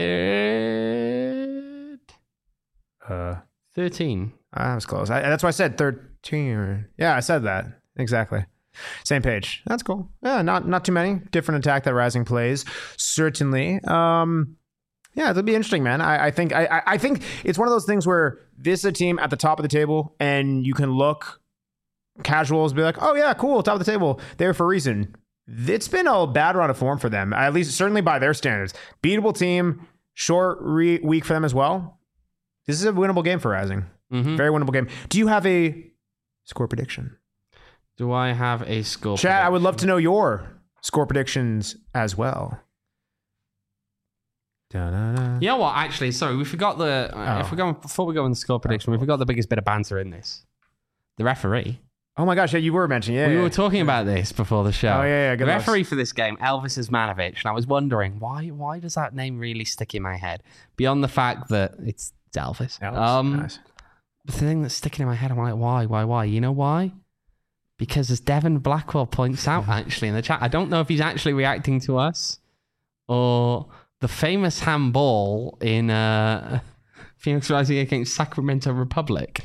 Uh, thirteen. I was close. I, that's why I said thirteen. Yeah, I said that exactly. Same page. That's cool. Yeah, not not too many different attack that Rising plays. Certainly. Um, yeah, it'll be interesting, man. I, I think I, I- I think it's one of those things where this is a team at the top of the table, and you can look casuals, be like, oh yeah, cool, top of the table, there for a reason. It's been a bad run of form for them, at least certainly by their standards. Beatable team, short re- week for them as well. This is a winnable game for Rising. Mm-hmm. Very winnable game. Do you have a score prediction? Do I have a score? Chad, I would love to know your score predictions as well. Da-da-da. You know what? Actually, sorry, we forgot the. Uh, Oh. If we go before we go on the score prediction, we forgot the biggest bit of banter in this. The referee. Oh my gosh, yeah, you were mentioning. Yeah, we yeah. were talking about this before the show. Oh, yeah, yeah, The good luck. referee for this game, Elvis Ismanovic, and I was wondering why. Why does that name really stick in my head? Beyond the fact that it's, it's Elvis. That was um, nice. the thing that's sticking in my head, I'm like, why, why, why? You know why? Because as Devon Blackwell points out, actually in the chat, I don't know if he's actually reacting to us or the famous handball in uh, Phoenix Rising against Sacramento Republic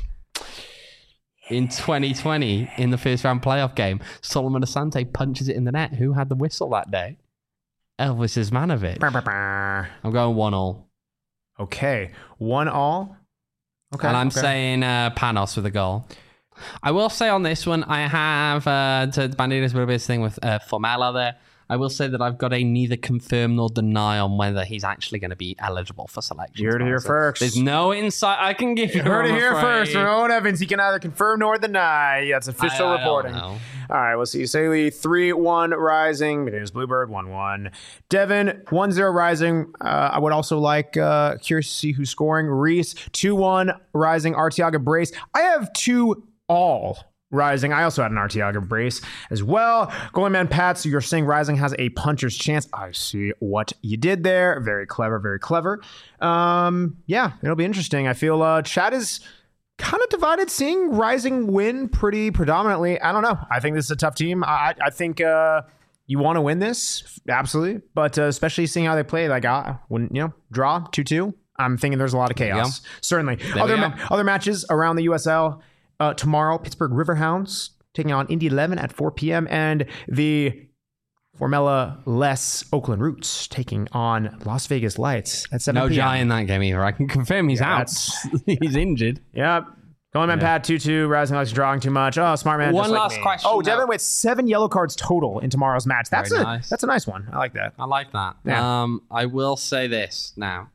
in twenty twenty in the first round playoff game. Solomon Asante punches it in the net. Who had the whistle that day? Elvis Ismanovic. Brr, brr, brr. I'm going one all. Okay, one all. Okay, And I'm okay. saying uh, Panos with a goal. I will say on this one, I have uh, to Bandita's a bit thing with uh, Formella there. I will say that I've got a neither confirm nor deny on whether he's actually going to be eligible for selection. You heard it here So first. There's no insight I can give you. You heard it I'm here afraid. first from Owen Evans. He can either confirm nor deny. That's official I- I don't reporting. know. All right, we'll see. Saley three one Rising. There's Bluebird one one. Devin one zero Rising. Uh, I would also like, uh, curious to see who's scoring. Reese two one Rising. Artiaga Brace. I have two all Rising. I also had an Artiaga Brace as well. Goalie man Pat, so you're saying Rising has a puncher's chance. I see what you did there. Very clever, very clever. Um, yeah, it'll be interesting. I feel uh, Chad is kind of divided, seeing Rising win pretty predominantly. I don't know. I think this is a tough team. I, I think uh, you want to win this, absolutely. But uh, especially seeing how they play, like, uh, when, you know, draw two two, I'm thinking there's a lot of you chaos. Certainly. we Other, go. ma- other matches around the U S L. Uh, tomorrow, Pittsburgh Riverhounds taking on Indy eleven at four p.m. and the Formella Less Oakland Roots taking on Las Vegas Lights at seven No p.m. Jai in that game either. I can confirm he's Yeah, out. he's injured. Yeah, Going man Yeah. Pat two two, Rising Alex drawing too much. Oh, smart man. One just like last me. question, Oh, though. Devin with seven yellow cards total in tomorrow's match. That's Very a nice. that's a nice one. I like that. I like that. Yeah. Um, I will say this now.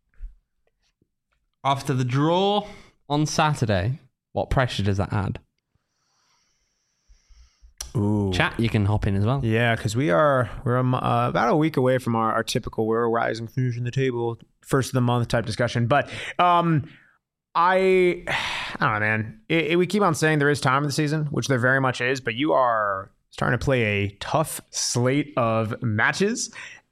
After the draw on Saturday, what pressure does that add? Ooh. Chat, you can hop in as well. Yeah, because we are we're a mo- uh, about a week away from our, our typical we're rising, finishing the table, first of the month type discussion. But um, I I don't know, man. It, it, we keep on saying there is time in the season, which there very much is. But you are starting to play a tough slate of matches,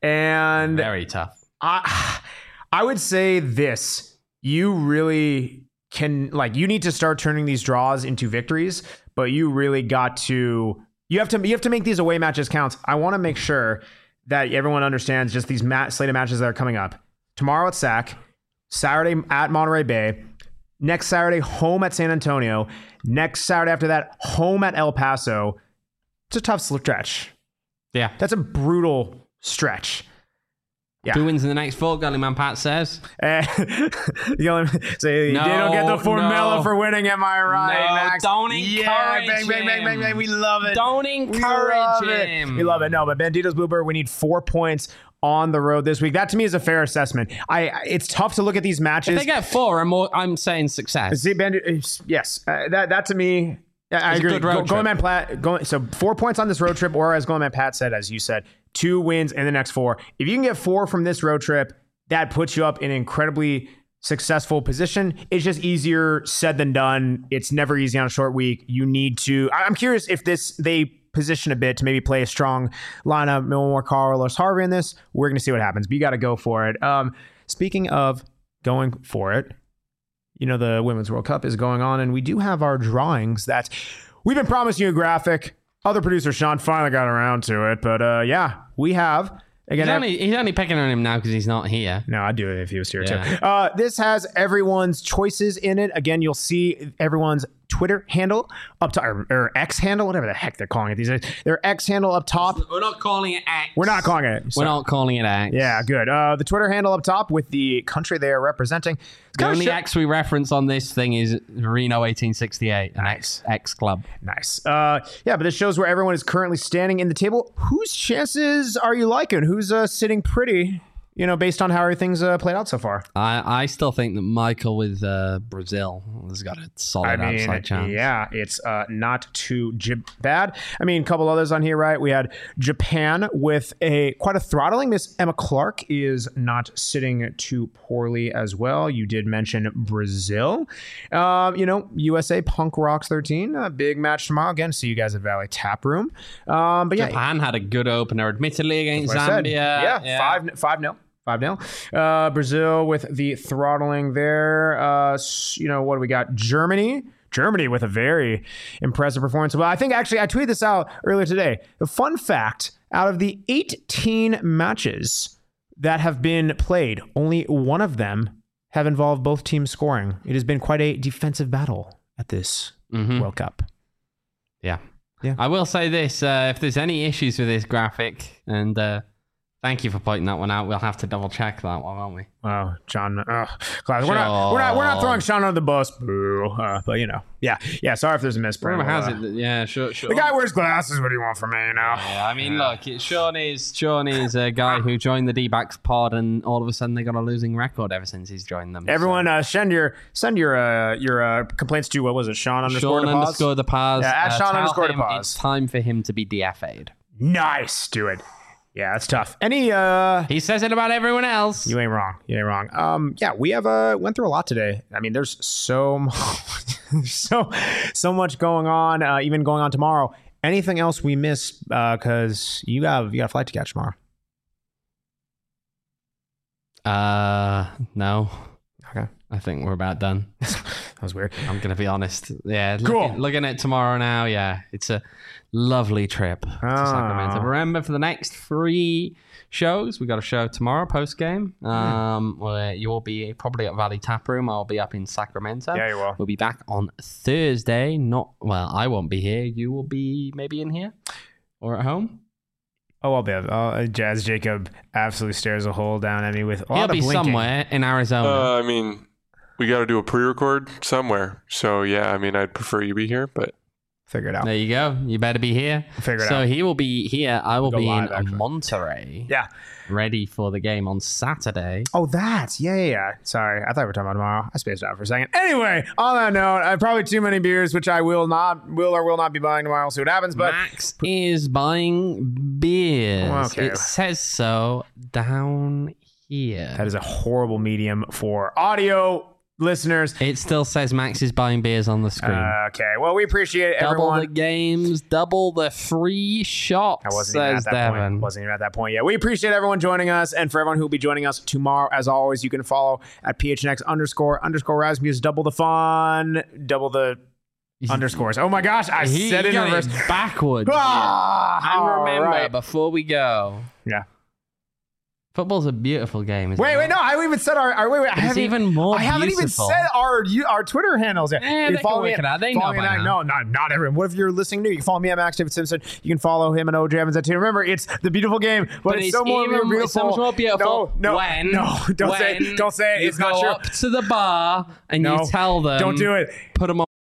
and Very tough. I I would say this. You really can, like, you need to start turning these draws into victories, but you really got to you have to you have to make these away matches count. I want to make sure that everyone understands just these mat, slate of matches that are coming up. Tomorrow at S A C, Saturday at Monterey Bay, next Saturday home at San Antonio, next Saturday after that home at El Paso. It's a tough stretch. Yeah. That's a brutal stretch. Yeah. Who wins in the next four? Gully Man Pat says. Uh, you only say No, you don't get the formula no. for winning. Am I right, No, Max? don't yeah, encourage bang, bang, bang, bang, him. bang. We love it. Don't we encourage love him. It. We love it. No, but Bandito's Bluebird, we need four points on the road this week. That to me is a fair assessment. I. It's tough to look at these matches. If they get four, I'm, more, I'm saying success. See, Bandit, yes, uh, that that to me. I It's a agree. good road Go, trip. Golden Man Pat, go, so four points on this road trip, or as Golden Man Pat said, as you said, two wins in the next four. If you can get four from this road trip, that puts you up in an incredibly successful position. It's just easier said than done. It's never easy on a short week. You need to. I'm curious if this they position a bit to maybe play a strong lineup, no more Carlos Harvey in this. We're going to see what happens, but you got to go for it. Um, speaking of going for it. You know, the Women's World Cup is going on, and we do have our drawings that we've been promising you a graphic. Other producer Sean finally got around to it, but uh, yeah, we have. Again, He's only, he's only picking on him now because he's not here. no, I'd do it if he was here Yeah. too. Uh, this has everyone's choices in it. Again, you'll see everyone's Twitter handle up top, or, or X handle, whatever the heck they're calling it these days. Their X handle up top. We're not calling it X. We're not calling it. We're Sorry. not calling it X. Yeah, good. Uh, the Twitter handle up top with the country they are representing. It's The kinda only sh- X we reference on this thing is Reno eighteen sixty-eight, an X, X club. Nice. Uh, yeah, but this shows where everyone is currently standing in the table. Whose chances are you liking? Who's uh, sitting pretty, you know, based on how everything's uh, played out so far? I, I still think that Michael with uh, Brazil has got a solid I mean, outside chance. yeah, it's uh, not too j- bad. I mean, a couple others on here, right? We had Japan with a quite a throttling. Miss Emma Clark is not sitting too poorly as well. You did mention Brazil. Um, you know, U S A Punk Rocks thirteen, a big match tomorrow. Again, see you guys at Valley Tap Room. Um, but yeah, Japan had a good opener, admittedly, against That's what I Zambia. said. Yeah, five five nil. five nil. Uh, Brazil with the throttling there. Uh, s- you know, what do we got? Germany. Germany with a very impressive performance. Well, I think actually I tweeted this out earlier today. The fun fact, out of the eighteen matches that have been played, only one of them have involved both teams scoring. It has been quite a defensive battle at this Mhm. World Cup. Yeah. Yeah. I will say this, uh, if there's any issues with this graphic, and uh, thank you for pointing that one out, we'll have to double check that one, won't we? Wow, John. Uh, class. We're not. We're not. We're not throwing Sean under the bus. Boo. Uh, but you know, yeah, yeah. Sorry if there's a misprint. Rumor has Uh, it that, yeah, sure, sure. The guy wears glasses. What do you want from me? You know. Yeah, I mean, look, it, Sean is Sean is a guy who joined the D-backs pod, and all of a sudden they got a losing record ever since he's joined them. Everyone, uh, send your send your uh, your uh, complaints to what was it? Sean so. underscore Sean the pause? underscore the pause. Yeah, at uh, Sean tell underscore the him pause. It's time for him to be D F A'd. Nice, do it. Yeah, that's tough. Any uh He says it about everyone else. you ain't wrong. You ain't wrong. Um yeah, we have uh went through a lot today. I mean, there's so much, so so much going on, uh, even going on tomorrow. Anything else we missed uh cuz you got you got a flight to catch tomorrow. Uh, no. Okay. I think we're about done. That was weird. I'm gonna be honest. Yeah, Cool. looking, looking at tomorrow now. Yeah, it's a lovely trip to Ah. Sacramento. Remember, for the next three shows, we got a show tomorrow post game. Um, where you will be probably at Valley Tap Room. I'll be up in Sacramento. Yeah, you will. We'll be back on Thursday. Not well. I won't be here. You will be maybe in here or at home. Oh, I'll be. Uh, Jazz Jacob absolutely stares a hole down at me with a He'll lot be of blinking. somewhere in Arizona. Uh, I mean, we got to do a pre-record somewhere. So yeah, I mean, I'd prefer you be here, but figure it out. There you go. You better be here. Figure it so out. So he will be here. I will Go be live, in actually. Monterey. Yeah. Ready for the game on Saturday. Oh, that's yeah, yeah, yeah. Sorry, I thought we were talking about tomorrow. I spaced out for a second. Anyway, on that note, I have probably too many beers, which I will not, will or will not be buying tomorrow. We'll see what happens. But Max is buying beers. Okay. It says so down here. that is a horrible medium for audio listeners. It still says Max is buying beers on the screen. Uh, okay, well, we appreciate double everyone. the games, double the free shots, I wasn't even says at that Devin. point. Wasn't even at that point yet. We appreciate everyone joining us, and for everyone who will be joining us tomorrow, as always, you can follow at phnx underscore underscore Rasmus. Double the fun, double the underscores. Oh my gosh, I He said it in got reverse. backwards. Ah, And remember, all right. before we go, Yeah. football's a beautiful game. Isn't Wait, it? wait, no, I haven't even said our. our wait, wait, I It's haven't even more I haven't even beautiful. said our you- our Twitter handles yet. Eh, You they follow can me work at- it out. They follow know me by at- now. No, not not everyone. What if you're listening new? You can follow me at Max David Simpson. You can follow him and O J Evans at two. Remember, it's the beautiful game, but, But it's, it's so more even- beautiful. it's so much more beautiful No, no, when- no, don't say, when don't say it. You It's go not true. up to the bar and No, you tell them. don't do it. Put them